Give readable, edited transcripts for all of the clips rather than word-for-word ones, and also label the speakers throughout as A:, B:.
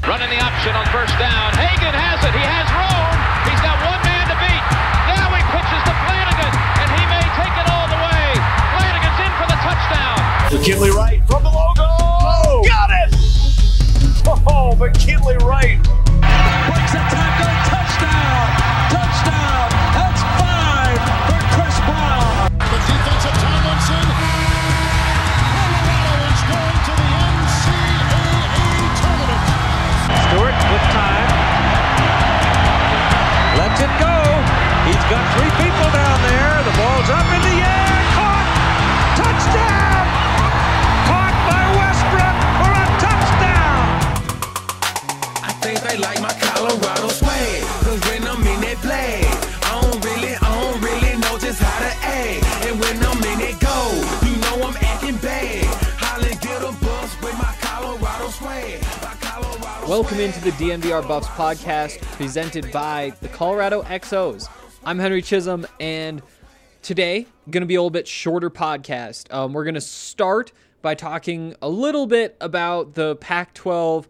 A: Running the option on first down. Hagan has it. He has room. He's got one man to beat. Now he pitches to Flanagan, and he may take it all the way. Flanagan's in for the touchdown.
B: McKinley Wright from the logo. Oh, got it! Oh, McKinley Wright.
C: Breaks a tackle. Touchdown. Touchdown. That's 5 for Chris Brown.
D: The defense of Tomlinson. Colorado is going to the NCAA tournament.
C: Stewart with time. Lets it go. He's got 3 people down there. The ball's up in the air. Caught. Touchdown. Caught by Westbrook for a touchdown.
E: I think they like my Colorado swag. Cause when I'm in that play, I don't really know just how to act. And when I'm in it go, you know I'm acting bad. Holland get a bus with my Colorado swag.
F: Welcome into the DNVR Buffs podcast presented by the Colorado XOs. I'm Henry Chisholm, and today going to be a little bit shorter podcast. We're going to start by talking a little bit about the Pac-12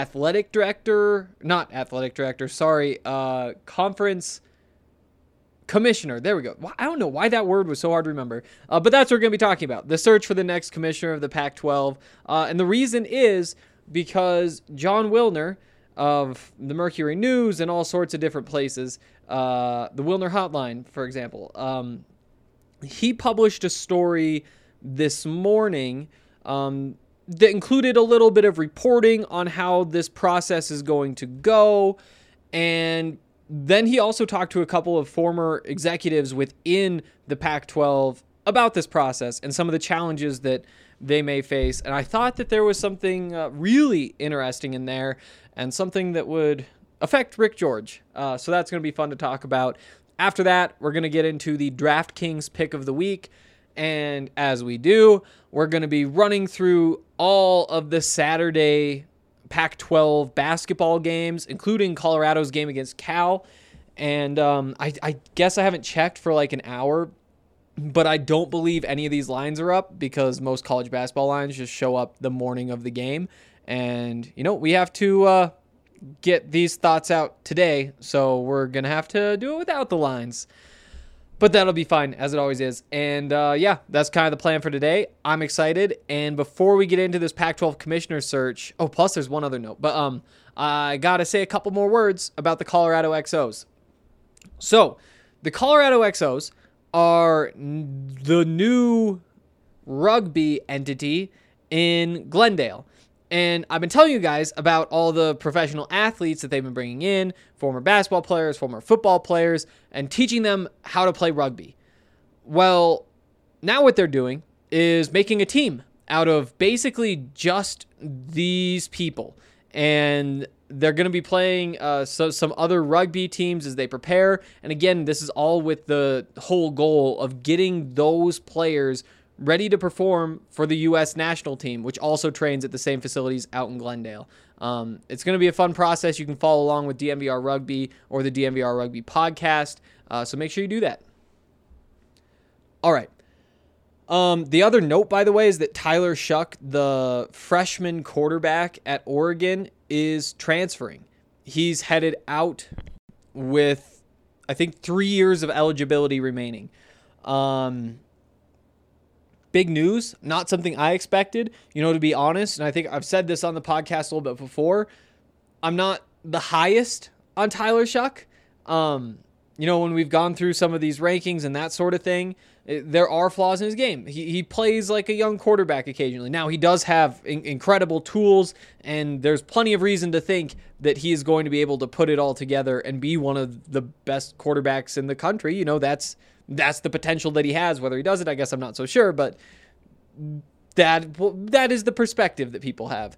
F: conference commissioner. There we go. I don't know why that word was so hard to remember, but that's what we're going to be talking about. The search for the next commissioner of the Pac-12, and the reason is because Jon Wilner of the Mercury News and all sorts of different places, the Wilner Hotline, for example, he published a story this morning that included a little bit of reporting on how this process is going to go. And then he also talked to a couple of former executives within the Pac-12 about this process and some of the challenges that they may face. And I thought that there was something really interesting in there and something that would affect Rick George. So that's going to be fun to talk about. After that, we're going to get into the DraftKings pick of the week. And as we do, we're going to be running through all of the Saturday Pac-12 basketball games, including Colorado's game against Cal. And I guess I haven't checked for like an hour, but I don't believe any of these lines are up because most college basketball lines just show up the morning of the game. And, you know, we have to get these thoughts out today, so we're going to have to do it without the lines. But that'll be fine, as it always is. And, yeah, that's kind of the plan for today. I'm excited. And before we get into this Pac-12 commissioner search... Oh, plus there's one other note. But I got to say a couple more words about the Colorado XOs. So, the Colorado XOs are the new rugby entity in Glendale. And I've been telling you guys about all the professional athletes that they've been bringing in, former basketball players, former football players, and teaching them how to play rugby. Well, now what they're doing is making a team out of basically just these people. And they're going to be playing some other rugby teams as they prepare. And again, this is all with the whole goal of getting those players ready to perform for the U.S. national team, which also trains at the same facilities out in Glendale. It's going to be a fun process. You can follow along with DNVR Rugby or the DNVR Rugby podcast, so make sure you do that. All right. The other note, by the way, is that Tyler Shuck, the freshman quarterback at Oregon, is transferring. He's headed out with, I think, 3 years of eligibility remaining. Big news, not something I expected, to be honest. And I think I've said this on the podcast a little bit before. I'm not the highest on Tyler Shuck. When we've gone through some of these rankings and that sort of thing, there are flaws in his game. He plays like a young quarterback occasionally. Now, he does have incredible tools, and there's plenty of reason to think that he is going to be able to put it all together and be one of the best quarterbacks in the country. That's the potential that he has. Whether he does it, I guess I'm not so sure, but that is the perspective that people have.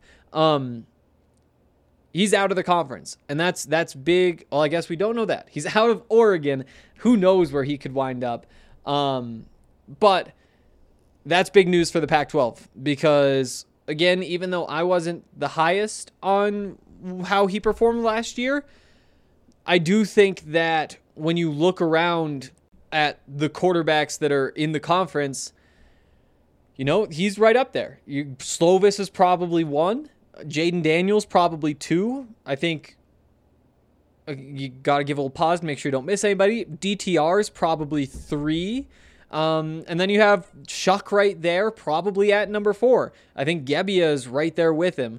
F: He's out of the conference, and that's big. Well, I guess we don't know that. He's out of Oregon. Who knows where he could wind up? But that's big news for the Pac-12 because, again, even though I wasn't the highest on how he performed last year, I do think that when you look around at the quarterbacks that are in the conference, he's right up there. Slovis is probably one. Jaden Daniels probably 2. I think you got to give a little pause to make sure you don't miss anybody. DTR is probably 3. And then you have Shuck right there, probably at number 4. I think Gebbia is right there with him.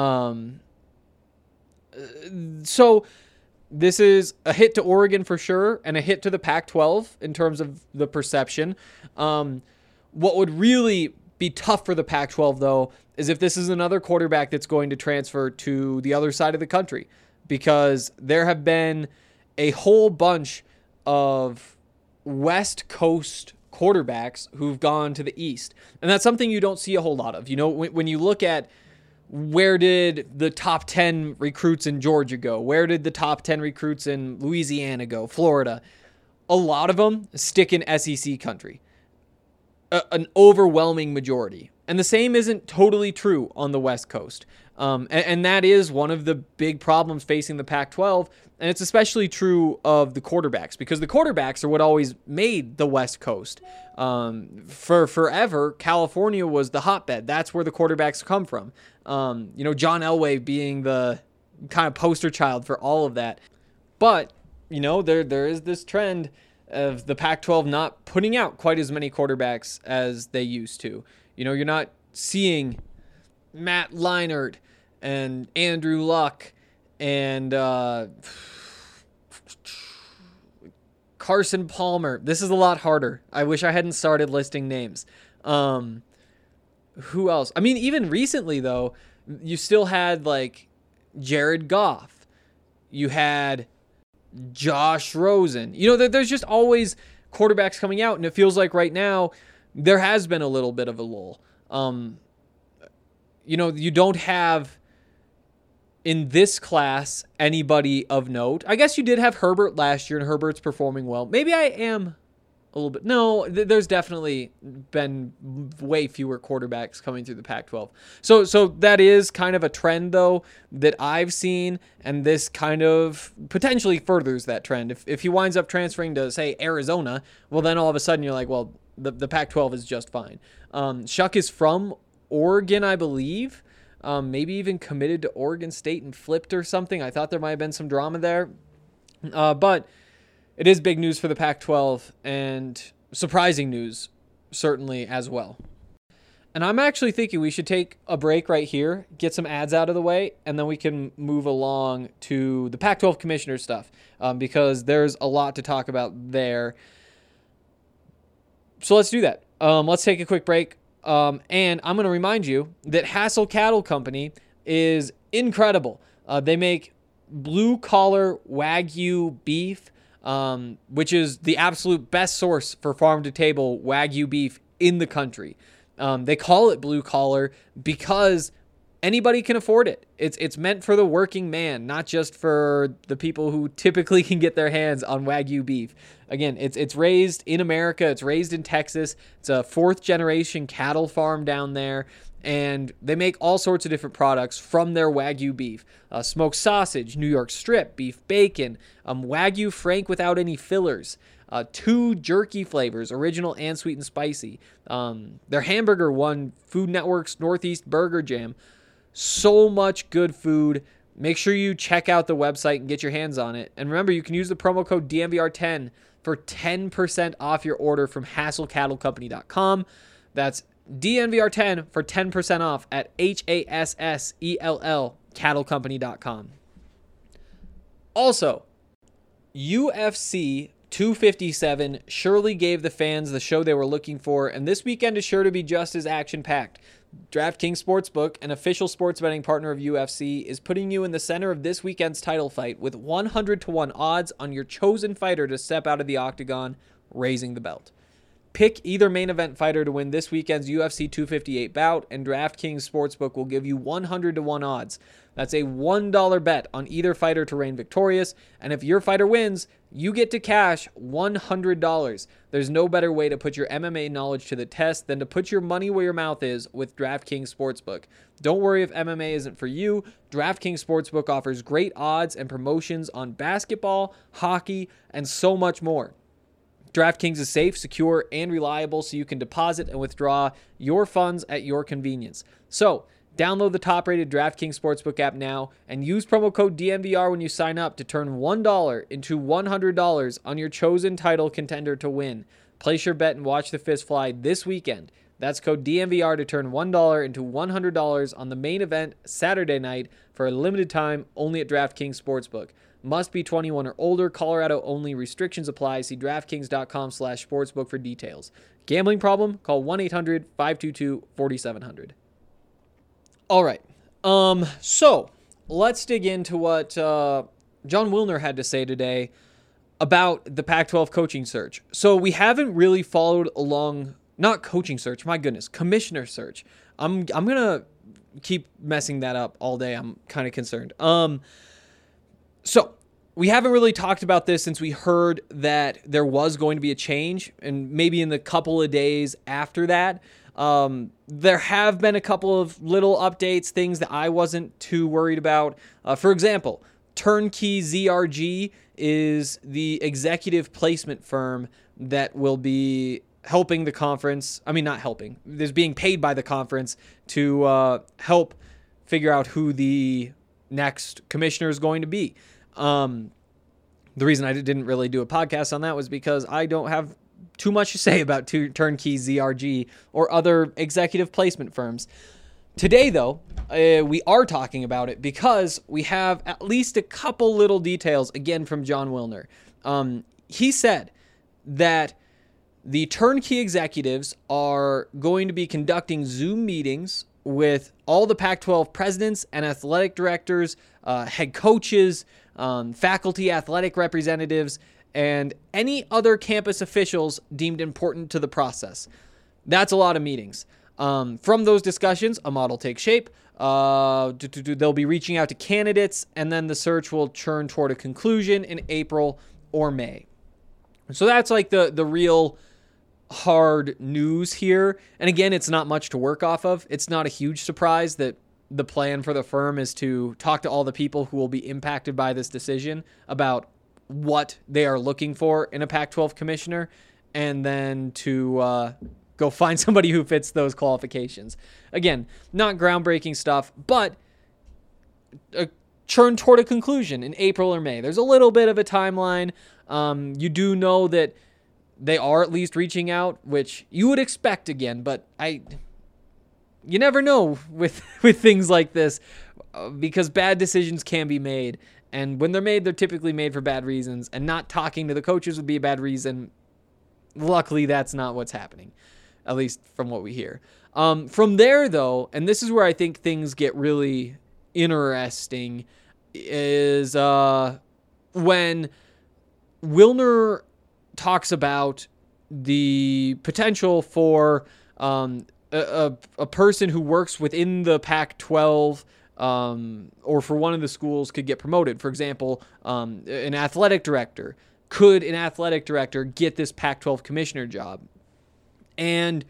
F: So this is a hit to Oregon for sure, and a hit to the Pac-12 in terms of the perception. What would really be tough for the Pac-12, though, is if this is another quarterback that's going to transfer to the other side of the country, because there have been a whole bunch of West Coast quarterbacks who've gone to the East. And that's something you don't see a whole lot of. You know, when you look at where did the top 10 recruits in Georgia go? Where did the top 10 recruits in Louisiana go? Florida? A lot of them stick in SEC country. An overwhelming majority. And the same isn't totally true on the West Coast. And that is one of the big problems facing the Pac-12. And it's especially true of the quarterbacks, because the quarterbacks are what always made the West Coast. For forever, California was the hotbed. That's where the quarterbacks come from. John Elway being the kind of poster child for all of that. But, there is this trend of the Pac-12 not putting out quite as many quarterbacks as they used to. You're not seeing Matt Leinart and Andrew Luck and Carson Palmer. This is a lot harder. I wish I hadn't started listing names. Who else? I mean, even recently, though, you still had, Jared Goff. You had Josh Rosen. There's just always quarterbacks coming out, and it feels like right now there has been a little bit of a lull. You don't have in this class anybody of note. I guess you did have Herbert last year, and Herbert's performing well. Maybe I am a little bit. No, there's definitely been way fewer quarterbacks coming through the Pac-12. So that is kind of a trend, though, that I've seen, and this kind of potentially furthers that trend. If he winds up transferring to, say, Arizona, well, then all of a sudden you're like, well, the Pac-12 is just fine. Shuck is from Oregon, I believe. Maybe even committed to Oregon State and flipped or something. I thought there might have been some drama there. But it is big news for the Pac-12, and surprising news, certainly, as well. And I'm actually thinking we should take a break right here, get some ads out of the way, and then we can move along to the Pac-12 commissioner stuff, because there's a lot to talk about there. So let's do that. Let's take a quick break. And I'm going to remind you that Hassel Cattle Company is incredible. They make blue-collar Wagyu beef, which is the absolute best source for farm-to-table Wagyu beef in the country. They call it blue-collar because anybody can afford it. It's meant for the working man, not just for the people who typically can get their hands on Wagyu beef. Again, it's raised in America. It's raised in Texas. It's a 4th-generation cattle farm down there, and they make all sorts of different products from their Wagyu beef. Smoked sausage, New York strip, beef bacon, Wagyu Frank without any fillers, 2 jerky flavors, original and sweet and spicy. Their hamburger won Food Network's Northeast Burger Jam. So much good food. Make sure you check out the website and get your hands on it. And remember, you can use the promo code DNVR10 for 10% off your order from HassellCattleCompany.com. That's DNVR10 for 10% off at HASSELL CattleCompany.com. Also, UFC 257 surely gave the fans the show they were looking for, and this weekend is sure to be just as action-packed. DraftKings Sportsbook, an official sports betting partner of UFC, is putting you in the center of this weekend's title fight with 100-1 odds on your chosen fighter to step out of the octagon, raising the belt. Pick either main event fighter to win this weekend's UFC 258 bout, and DraftKings Sportsbook will give you 100-1 odds. That's a $1 bet on either fighter to reign victorious, and if your fighter wins, you get to cash $100. There's no better way to put your MMA knowledge to the test than to put your money where your mouth is with DraftKings Sportsbook. Don't worry if MMA isn't for you. DraftKings Sportsbook offers great odds and promotions on basketball, hockey, and so much more. DraftKings is safe, secure, and reliable, so you can deposit and withdraw your funds at your convenience. So, Download the top-rated DraftKings Sportsbook app now and use promo code DNVR when you sign up to turn $1 into $100 on your chosen title contender to win. Place your bet and watch the fists fly this weekend. That's code DNVR to turn $1 into $100 on the main event Saturday night for a limited time only at DraftKings Sportsbook. Must be 21 or older. Colorado only. Restrictions apply. See DraftKings.com/sportsbook for details. Gambling problem? Call 1-800-522-4700. All right. So let's dig into what Jon Wilner had to say today about the Pac-12 coaching search. So we haven't really followed along, not coaching search, my goodness, commissioner search. I'm going to keep messing that up all day. I'm kind of concerned. So we haven't really talked about this since we heard that there was going to be a change, and maybe in the couple of days after that. There have been a couple of little updates, things that I wasn't too worried about. For example, Turnkey ZRG is the executive placement firm that will be helping the conference. I mean, not helping. Is being paid by the conference to help figure out who the next commissioner is going to be. The reason I didn't really do a podcast on that was because I don't have too much to say about Turnkey ZRG or other executive placement firms. Today, though, we are talking about it because we have at least a couple little details, again, from Jon Wilner. He said that the Turnkey executives are going to be conducting Zoom meetings with all the Pac-12 presidents and athletic directors, head coaches, faculty athletic representatives, and any other campus officials deemed important to the process. That's a lot of meetings. From those discussions, a model takes shape. They'll be reaching out to candidates, and then the search will churn toward a conclusion in April or May. So that's like the real hard news here. And again, it's not much to work off of. It's not a huge surprise that the plan for the firm is to talk to all the people who will be impacted by this decision about what they are looking for in a Pac-12 commissioner, and then to go find somebody who fits those qualifications. Again, not groundbreaking stuff, but a churn toward a conclusion in April or May. There's a little bit of a timeline. You do know that they are at least reaching out, which you would expect again, but you never know with things like this because bad decisions can be made. And when they're made, they're typically made for bad reasons, and not talking to the coaches would be a bad reason. Luckily, that's not what's happening, at least from what we hear. From there, though, and this is where I think things get really interesting, is when Wilner talks about the potential for a person who works within the Pac-12 or for one of the schools could get promoted. For example, an athletic director. Could an athletic director get this Pac-12 commissioner job? And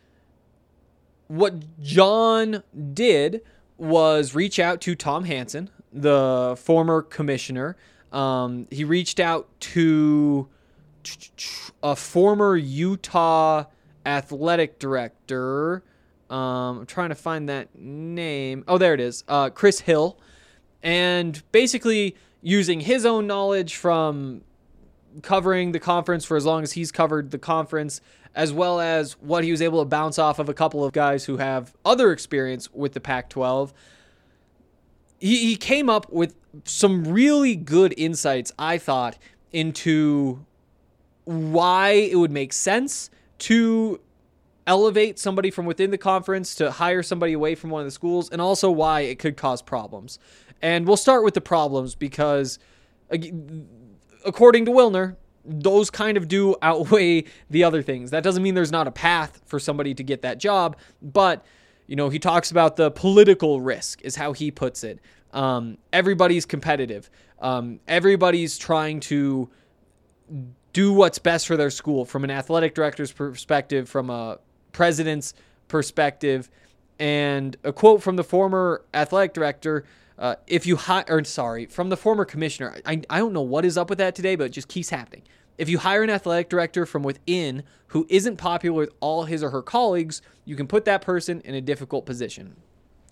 F: what Jon did was reach out to Tom Hansen, the former commissioner. He reached out to a former Utah athletic director. I'm trying to find that name. Oh, there it is. Chris Hill. And basically using his own knowledge from covering the conference for as long as he's covered the conference, as well as what he was able to bounce off of a couple of guys who have other experience with the Pac-12, he came up with some really good insights, I thought, into why it would make sense to elevate somebody from within the conference to hire somebody away from one of the schools, and also why it could cause problems. And we'll start with the problems because, according to Wilner, those kind of do outweigh the other things. That doesn't mean there's not a path for somebody to get that job, but he talks about the political risk is how he puts it. Everybody's competitive. Everybody's trying to do what's best for their school from an athletic director's perspective, from a president's perspective. And a quote from the former athletic director, from the former commissioner. I don't know what is up with that today, but it just keeps happening. If you hire an athletic director from within who isn't popular with all his or her colleagues, you can put that person in a difficult position.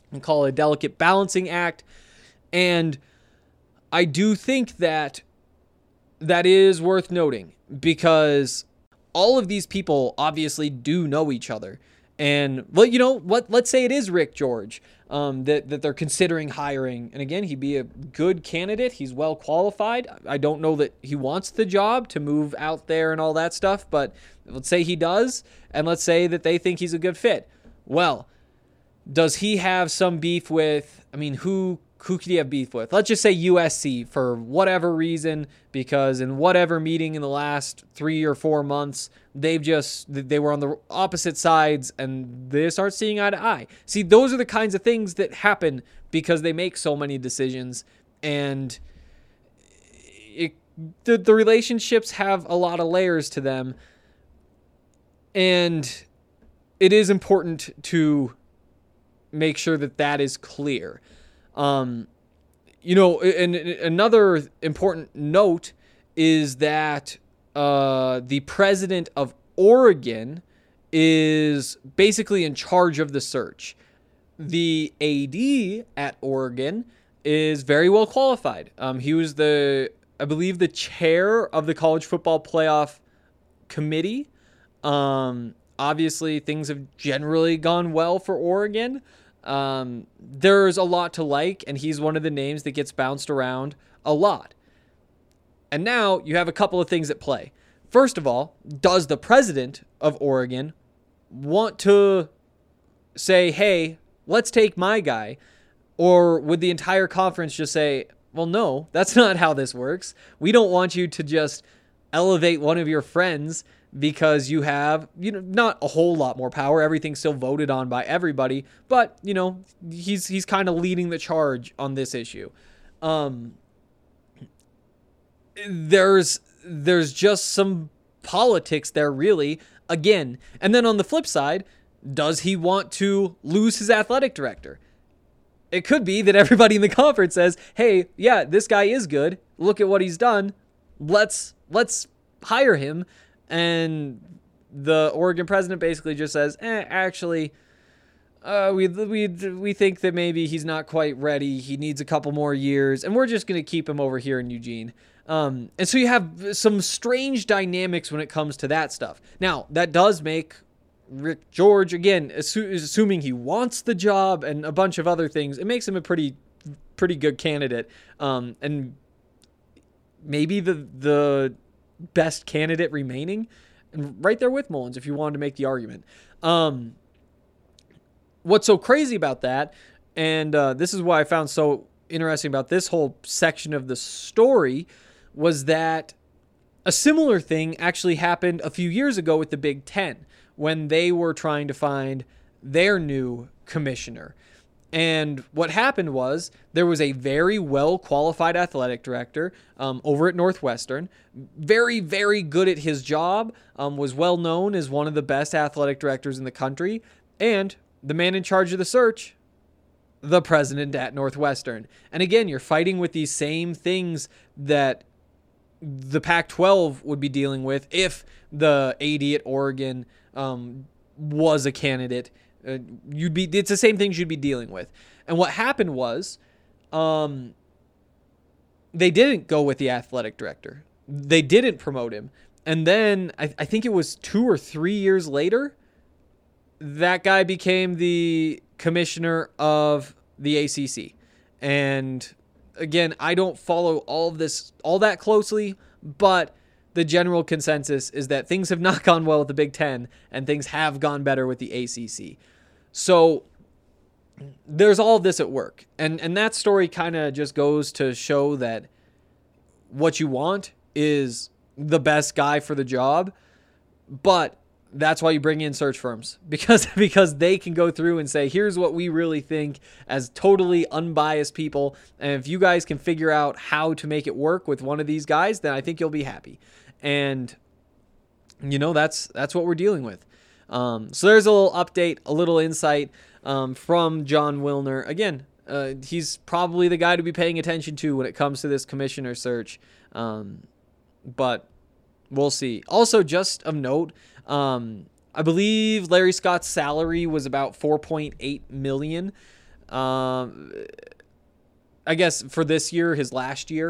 F: and call it a delicate balancing act. And I do think that is worth noting, because all of these people obviously do know each other. And, well, you know what? Let's say it is Rick George that they're considering hiring. And again, he'd be a good candidate. He's well qualified. I don't know that he wants the job to move out there and all that stuff, but let's say he does, and let's say that they think he's a good fit. Well, does he have some beef with, I mean, who could he have beef with? Let's just say USC for whatever reason, because in whatever meeting in the last 3 or 4 months, they were on the opposite sides and they start seeing eye to eye. See, those are the kinds of things that happen because they make so many decisions, and the relationships have a lot of layers to them, and it is important to make sure that is clear. You know, and another important note is that the president of Oregon is basically in charge of the search. The AD at Oregon is very well qualified. He was I believe the chair of the college football playoff committee. Obviously, things have generally gone well for Oregon. There's a lot to like, and he's one of the names that gets bounced around a lot. And now you have a couple of things at play. First of all, does the president of Oregon want to say, hey, let's take my guy? Or would the entire conference just say, well, no, that's not how this works. We don't want you to just elevate one of your friends because you have, not a whole lot more power. Everything's still voted on by everybody, but, he's kind of leading the charge on this issue. There's just some politics there, really, again. And then on the flip side, does he want to lose his athletic director? It could be that everybody in the conference says, hey, yeah, this guy is good. Look at what he's done. Let's hire him. And the Oregon president basically just says, actually, we think that maybe he's not quite ready. He needs a couple more years, and we're just going to keep him over here in Eugene. And so you have some strange dynamics when it comes to that stuff. Now, that does make Rick George, again, assuming he wants the job and a bunch of other things, it makes him a pretty good candidate. And maybe the best candidate remaining, and right there with Mullins if you wanted to make the argument. What's so crazy about that, and this is why I found so interesting about this whole section of the story, was that a similar thing actually happened a few years ago with the Big Ten when they were trying to find their new commissioner. And what happened was there was a very well-qualified athletic director over at Northwestern, very, very good at his job, was well-known as one of the best athletic directors in the country, and the man in charge of the search, the president at Northwestern. And again, you're fighting with these same things that the Pac-12 would be dealing with if the AD at Oregon was a candidate. It's the same things you'd be dealing with. And what happened was, they didn't go with the athletic director. They didn't promote him. And then I think it was 2 or 3 years later, that guy became the commissioner of the ACC. And again, I don't follow all that closely, but the general consensus is that things have not gone well with the Big Ten and things have gone better with the ACC. So there's all of this at work. And that story kind of just goes to show that what you want is the best guy for the job, but that's why you bring in search firms, because they can go through and say, here's what we really think as totally unbiased people. And if you guys can figure out how to make it work with one of these guys, then I think you'll be happy. And, that's what we're dealing with. So there's a little update, a little insight from Jon Wilner. Again, he's probably the guy to be paying attention to when it comes to this commissioner search. But we'll see. Also, just of note, I believe Larry Scott's salary was about $4.8 million. I guess for this year, his last year.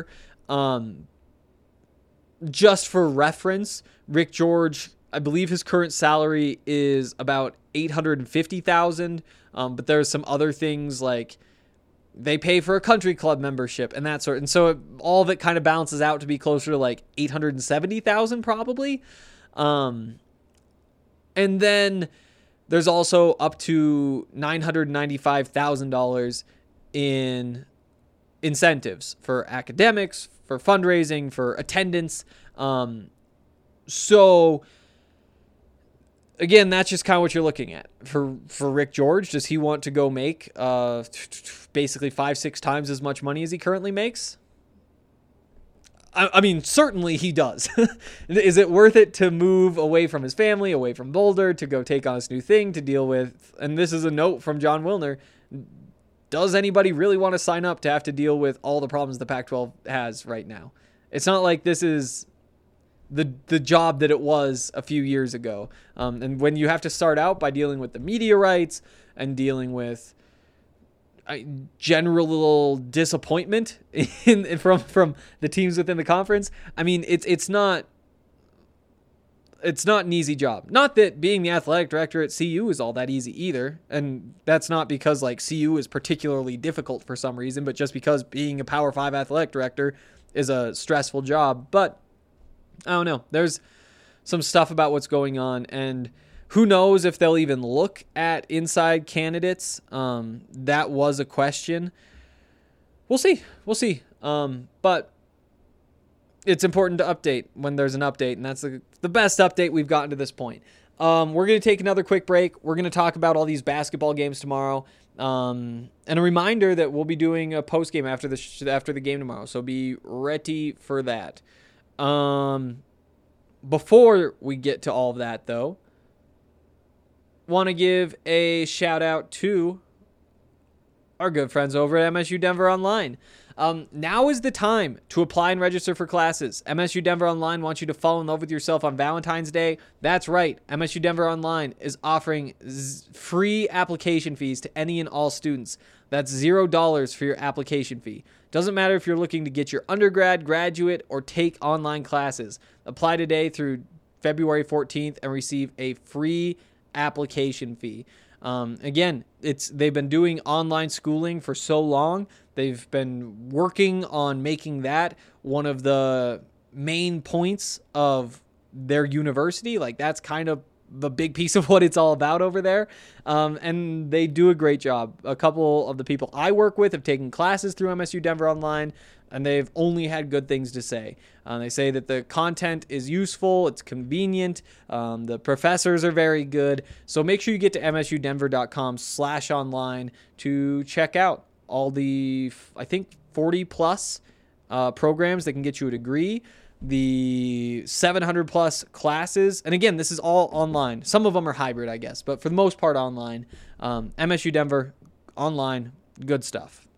F: Just for reference, Rick George, I believe his current salary is about $850,000. But there's some other things like they pay for a country club membership and that sort. And so all of it kind of balances out to be closer to like $870,000 probably. And then there's also up to $995,000 in incentives for academics, for fundraising, for attendance. So again, that's just kind of what you're looking at for Rick George. Does he want to go make basically 5-6 times as much money as he currently makes? I mean, certainly he does. Is it worth it to move away from his family, away from Boulder, to go take on this new thing, to deal with? And this is a note from John Wilner. Does anybody really want to sign up to have to deal with all the problems the Pac-12 has right now? It's not like this is the job that it was a few years ago. And when you have to start out by dealing with the media rights and dealing with general disappointment from the teams within the conference, I mean, it's not an easy job. Not that being the athletic director at CU is all that easy either. And that's not because like CU is particularly difficult for some reason, but just because being a Power 5 athletic director is a stressful job. But I don't know. There's some stuff about what's going on, and who knows if they'll even look at inside candidates. That was a question. We'll see. But it's important to update when there's an update, and that's the best update we've gotten to this point. We're going to take another quick break. We're going to talk about all these basketball games tomorrow. And a reminder that we'll be doing a post game after the game tomorrow, so be ready for that. Before we get to all of that, though, want to give a shout out to our good friends over at MSU Denver Online. Now is the time to apply and register for classes. MSU Denver Online wants you to fall in love with yourself on Valentine's Day. That's right. MSU Denver Online is offering free application fees to any and all students. That's $0 for your application fee. Doesn't matter if you're looking to get your undergrad, graduate, or take online classes. Apply today through February 14th and receive a free application fee. Again, they've been doing online schooling for so long. They've been working on making that one of the main points of their university. Like, that's kind of the big piece of what it's all about over there. And they do a great job. A couple of the people I work with have taken classes through MSU Denver Online, and they've only had good things to say. They say that the content is useful, it's convenient, the professors are very good. So make sure you get to msudenver.com/online to check out all the, I think, 40 plus programs that can get you a degree, the 700 plus classes. And again, this is all online. Some of them are hybrid, I guess, but for the most part online. MSU Denver online, good stuff.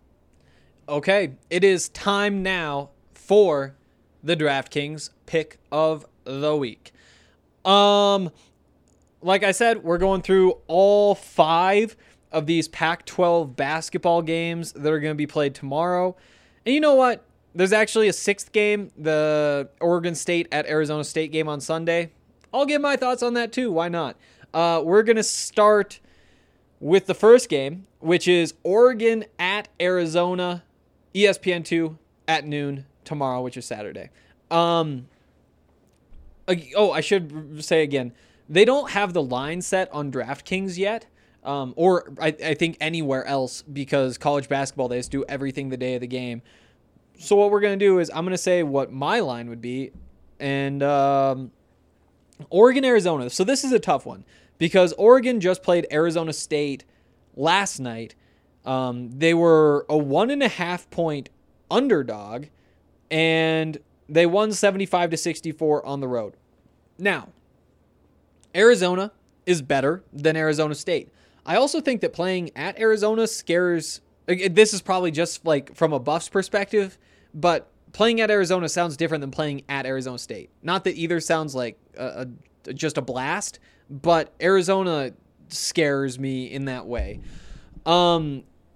F: Okay, it is time now for the DraftKings pick of the week. Like I said, we're going through all 5 of these Pac-12 basketball games that are going to be played tomorrow. And you know what? There's actually a 6th game, the Oregon State at Arizona State game on Sunday. I'll give my thoughts on that too. Why not? We're going to start with the first game, which is Oregon at Arizona, ESPN2 at noon tomorrow, which is Saturday. I should say again, they don't have the line set on DraftKings yet, or I think anywhere else, because college basketball, they just do everything the day of the game. So what we're going to do is I'm going to say what my line would be, and Oregon, Arizona. So this is a tough one because Oregon just played Arizona State last night. They were a 1.5 point underdog, and they won 75-64 on the road. Now, Arizona is better than Arizona State. I also think that playing at Arizona scares. This is probably just like from a Buffs perspective, but playing at Arizona sounds different than playing at Arizona State. Not that either sounds like just a blast, but Arizona scares me in that way.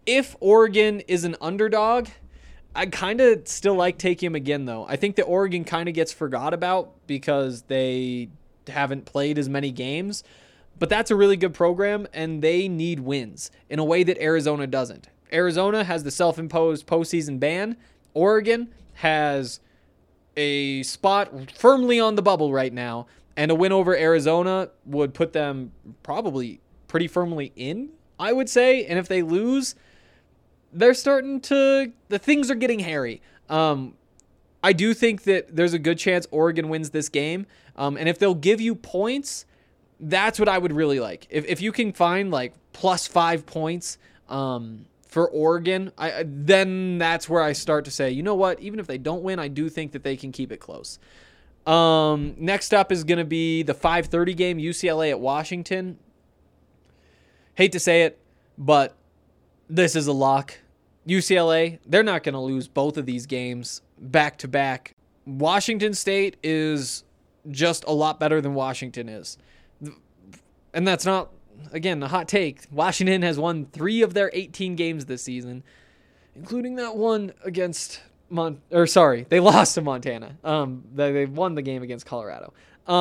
F: If Oregon is an underdog, I kind of still like taking them again, though. I think that Oregon kind of gets forgot about because they haven't played as many games. But that's a really good program, and they need wins in a way that Arizona doesn't. Arizona has the self-imposed postseason ban. Oregon has a spot firmly on the bubble right now, and a win over Arizona would put them probably pretty firmly in, I would say. And if they lose, they're the things are getting hairy. I do think that there's a good chance Oregon wins this game, and if they'll give you points, that's what I would really like. If you can find like +5 points for Oregon, then that's where I start to say, you know what? Even if they don't win, I do think that they can keep it close. Next up is going to be the 5:30 game, UCLA at Washington. Hate to say it, but this is a lock. UCLA, they're not going to lose both of these games back to back. Washington State is just a lot better than Washington is. And that's not, again, a hot take. Washington has won 3 of their 18 games this season, including that one against they lost to Montana. They won the game against Colorado.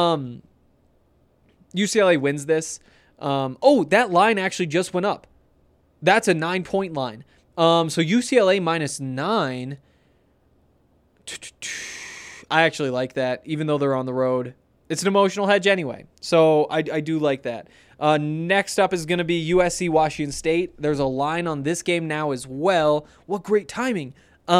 F: UCLA wins this. That line actually just went up. That's a 9-point line. So UCLA -9. I actually like that, even though they're on the road. It's an emotional hedge anyway, so I do like that. Next up is going to be USC Washington State. There's a line on this game now as well. What great timing.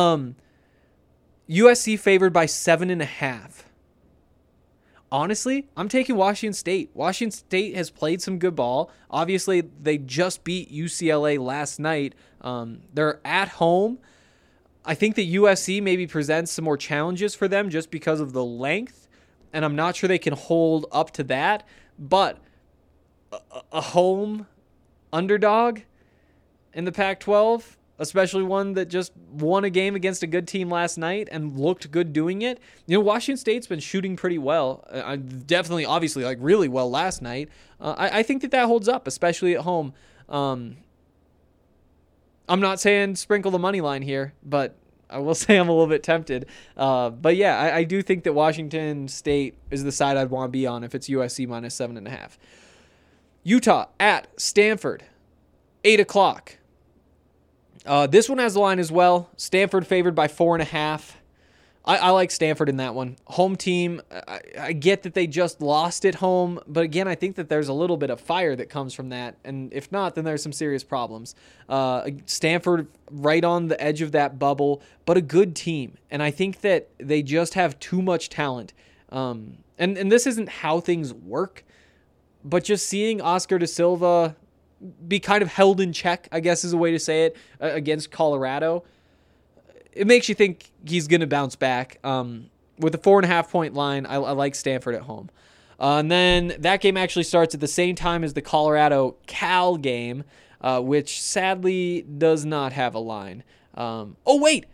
F: USC favored by 7.5. Honestly, I'm taking Washington State. Washington State has played some good ball. Obviously, they just beat UCLA last night. They're at home. I think that USC maybe presents some more challenges for them just because of the length, and I'm not sure they can hold up to that. But a home underdog in the Pac-12, especially one that just won a game against a good team last night and looked good doing it. You know, Washington State's been shooting pretty well. Definitely, obviously, like really well last night. I think that holds up, especially at home. I'm not saying sprinkle the money line here, but I will say I'm a little bit tempted. But yeah, I do think that Washington State is the side I'd want to be on if it's USC -7.5. Utah at Stanford, 8 o'clock. This one has the line as well. Stanford favored by 4.5. I like Stanford in that one. Home team, I get that they just lost at home, but again, I think that there's a little bit of fire that comes from that, and if not, then there's some serious problems. Stanford right on the edge of that bubble, but a good team, and I think that they just have too much talent. And this isn't how things work, but just seeing Oscar da Silva be kind of held in check, I guess is a way to say it, against Colorado, it makes you think he's going to bounce back. With a 4.5-point line, I like Stanford at home. And then that game actually starts at the same time as the Colorado-Cal game, which sadly does not have a line. I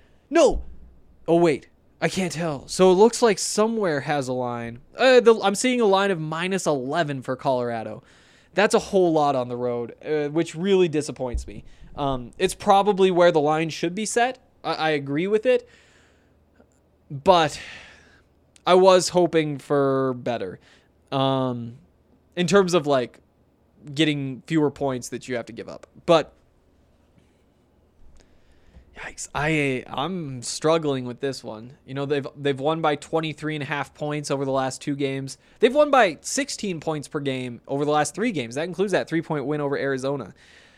F: can't tell. So it looks like somewhere has a line. I'm seeing a line of -11 for Colorado. That's a whole lot on the road, which really disappoints me. It's probably where the line should be set. I agree with it. But I was hoping for better. In terms of like getting fewer points that you have to give up. But yikes, I'm struggling with this one. You know, they've won by 23.5 points over the last 2 games. They've won by 16 points per game over the last 3 games. That includes that 3-point win over Arizona.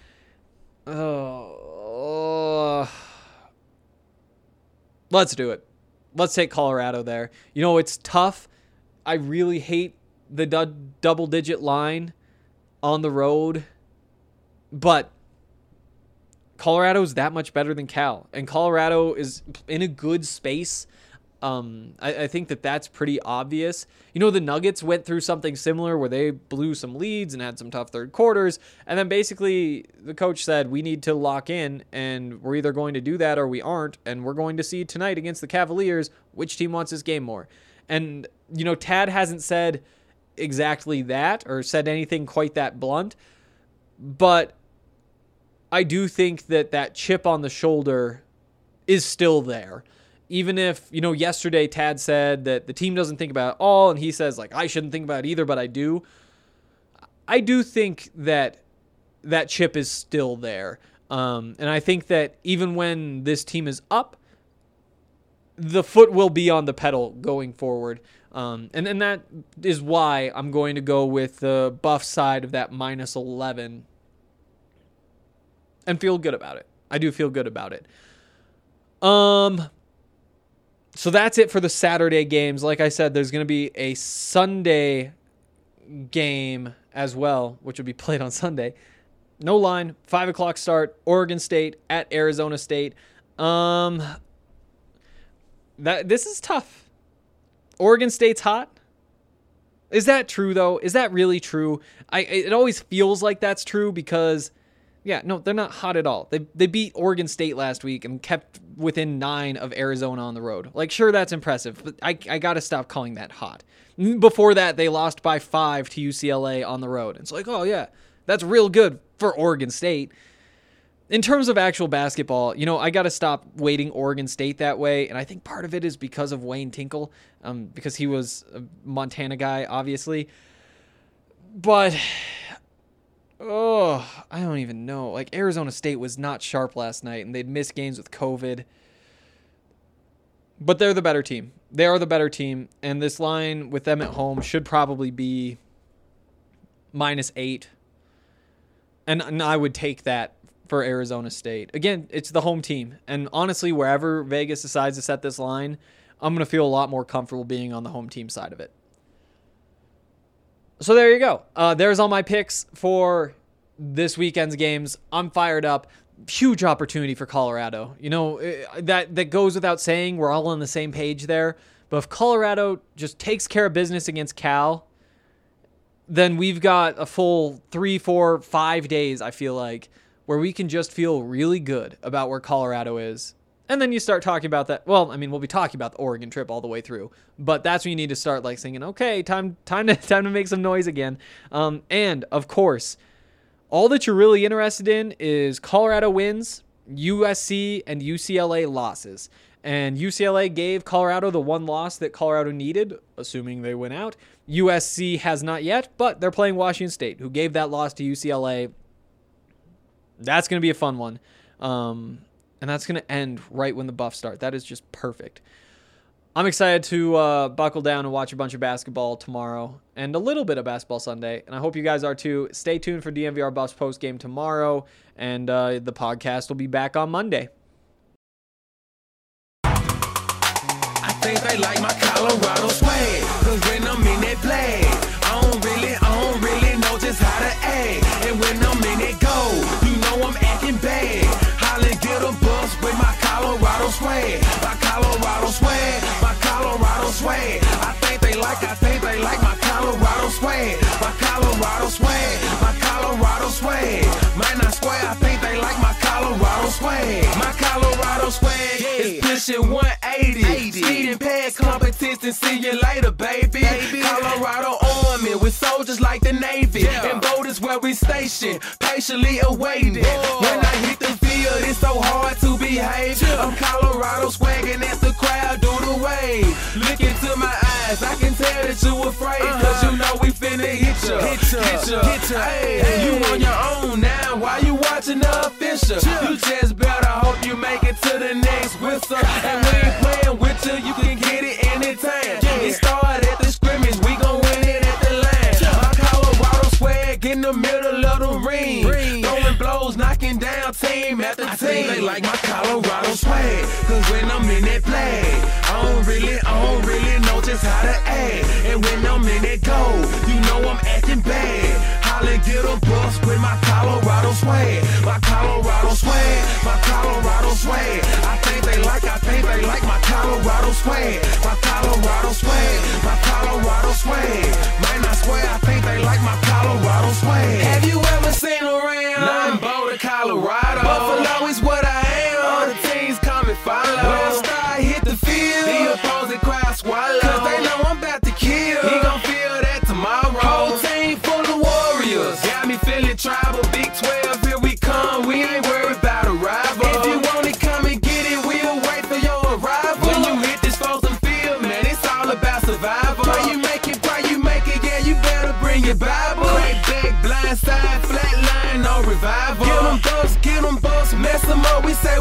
F: Let's do it. Let's take Colorado there. You know, it's tough. I really hate the double-digit line on the road, but Colorado's that much better than Cal, and Colorado is in a good space. I think that that's pretty obvious. You know, the Nuggets went through something similar where they blew some leads and had some tough third quarters, and then basically the coach said, we need to lock in, and we're either going to do that or we aren't, and we're going to see tonight against the Cavaliers which team wants this game more. And, you know, Tad hasn't said exactly that or said anything quite that blunt, but I do think that chip on the shoulder is still there. Even if, yesterday Tad said that the team doesn't think about it all, and he says, like, I shouldn't think about it either, but I do. I do think that chip is still there. And I think that even when this team is up, the foot will be on the pedal going forward. And that is why I'm going to go with the Buff side of that -11 and feel good about it. I do feel good about it. So that's it for the Saturday games. Like I said, there's going to be a Sunday game as well, which will be played on Sunday. No line, 5 o'clock start, Oregon State at Arizona State. This is tough. Oregon State's hot. Is that true, though? Is that really true? It always feels like that's true because, yeah, no, they're not hot at all. They beat Oregon State last week and kept within 9 of Arizona on the road. Like, sure, that's impressive, but I got to stop calling that hot. Before that, they lost by 5 to UCLA on the road. It's like, oh, yeah, that's real good for Oregon State. In terms of actual basketball, I got to stop weighting Oregon State that way, and I think part of it is because of Wayne Tinkle, because he was a Montana guy, obviously. But, I don't even know. Like, Arizona State was not sharp last night, and they'd missed games with COVID. But they're the better team. They are the better team, and this line with them at home should probably be -8. And I would take that for Arizona State. Again, it's the home team. And honestly, wherever Vegas decides to set this line, I'm going to feel a lot more comfortable being on the home team side of it. So there you go. There's all my picks for this weekend's games. I'm fired up. Huge opportunity for Colorado. That goes without saying. We're all on the same page there. But if Colorado just takes care of business against Cal, then we've got a full 3, 4, 5 days, I feel like, where we can just feel really good about where Colorado is. And then you start talking about that. Well, I mean, we'll be talking about the Oregon trip all the way through, but that's when you need to start like thinking, okay, time to make some noise again. And of course, all that you're really interested in is Colorado wins, USC and UCLA losses. And UCLA gave Colorado the one loss that Colorado needed, assuming they win out. USC has not yet, but they're playing Washington State, who gave that loss to UCLA. That's going to be a fun one. And that's going to end right when the Buffs start. That is just perfect. I'm excited to buckle down and watch a bunch of basketball tomorrow and a little bit of basketball Sunday. And I hope you guys are too. Stay tuned for DNVR Buffs post-game tomorrow. And the podcast will be back on Monday.
E: I think they like my Colorado swag, cause when I'm in that play, I don't really know just how to act. And when I'm in that go, you know I'm acting bad. Holla, get a bus with my Colorado swag. My Colorado swag, my Colorado swag. I think they like my Colorado swag. My Colorado swag, my Colorado swag. Might not swear, I think they like my Colorado swag. My Colorado swag is pushing 180. Speeding past competition, see you later, baby. Colorado Army with soldiers like the Navy. And boat is where we station, patiently awaiting. When I hit the field, it's so hard to behave. I'm Colorado swagging as the crowd do the wave. Look into my eyes, I can tell that you afraid. Cause you know we finna hit ya. Hey, you on your own now, why you watching the official? You just better hope you make it to the next whistle. And we ain't playing with you can get it anytime. It started at the scrimmage, we gon' win it at the line. My Colorado swag in the middle of the ring. Throwing blows, knocking down team after team. I think they like my Colorado swag, cause when I'm in that play, I don't really know just how to act. And when I'm in that go, you know I'm acting bad. Holla, get a bus with my Colorado swag. My Colorado swag, my Colorado swag. I think they like my Colorado swag. My Colorado swag, my Colorado swag. Might not swear, I think they like my Colorado swag. Have you ever seen around? Nah, I'm Boulder, Colorado. Buffalo is what I am. All the teams come and follow. When I start hit the field, the opposing crowd swallow. Cause they know I'm about to kill. He gon' feel that tomorrow. Whole team full of warriors. Got me feeling tribal, Big 12, here we come. We ain't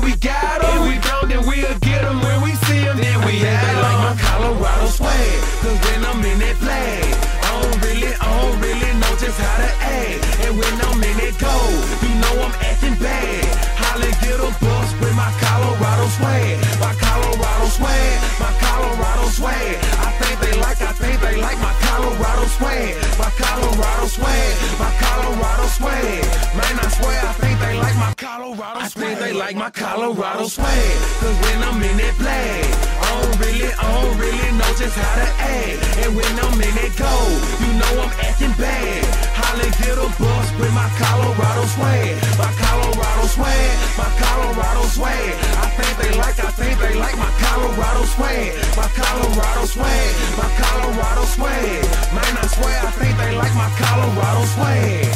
E: we got 'em. If we don't, then we'll get 'em when we see 'em. Then we have 'em. They like my Colorado swag, 'cause when I'm in that flag, I don't really know just how to act. And when I'm in that gold, you know I'm acting bad. Holly get a bus with my Colorado swag. My Colorado swag, my Colorado swag. I think they like my Colorado swag. My Colorado swag, my Colorado swag. Man, I swear I think they like my Colorado swag. I think they like my Colorado swag, 'cause when I'm in that flag, I don't really know just how to act. And when I'm in that gold, you know I'm acting bad. Holly get a bus with my Colorado swag. My Colorado swag, my Colorado swag. I think they like my Colorado swag. My Colorado swag, my Colorado swag. Man, I swear I think they like my Colorado swag.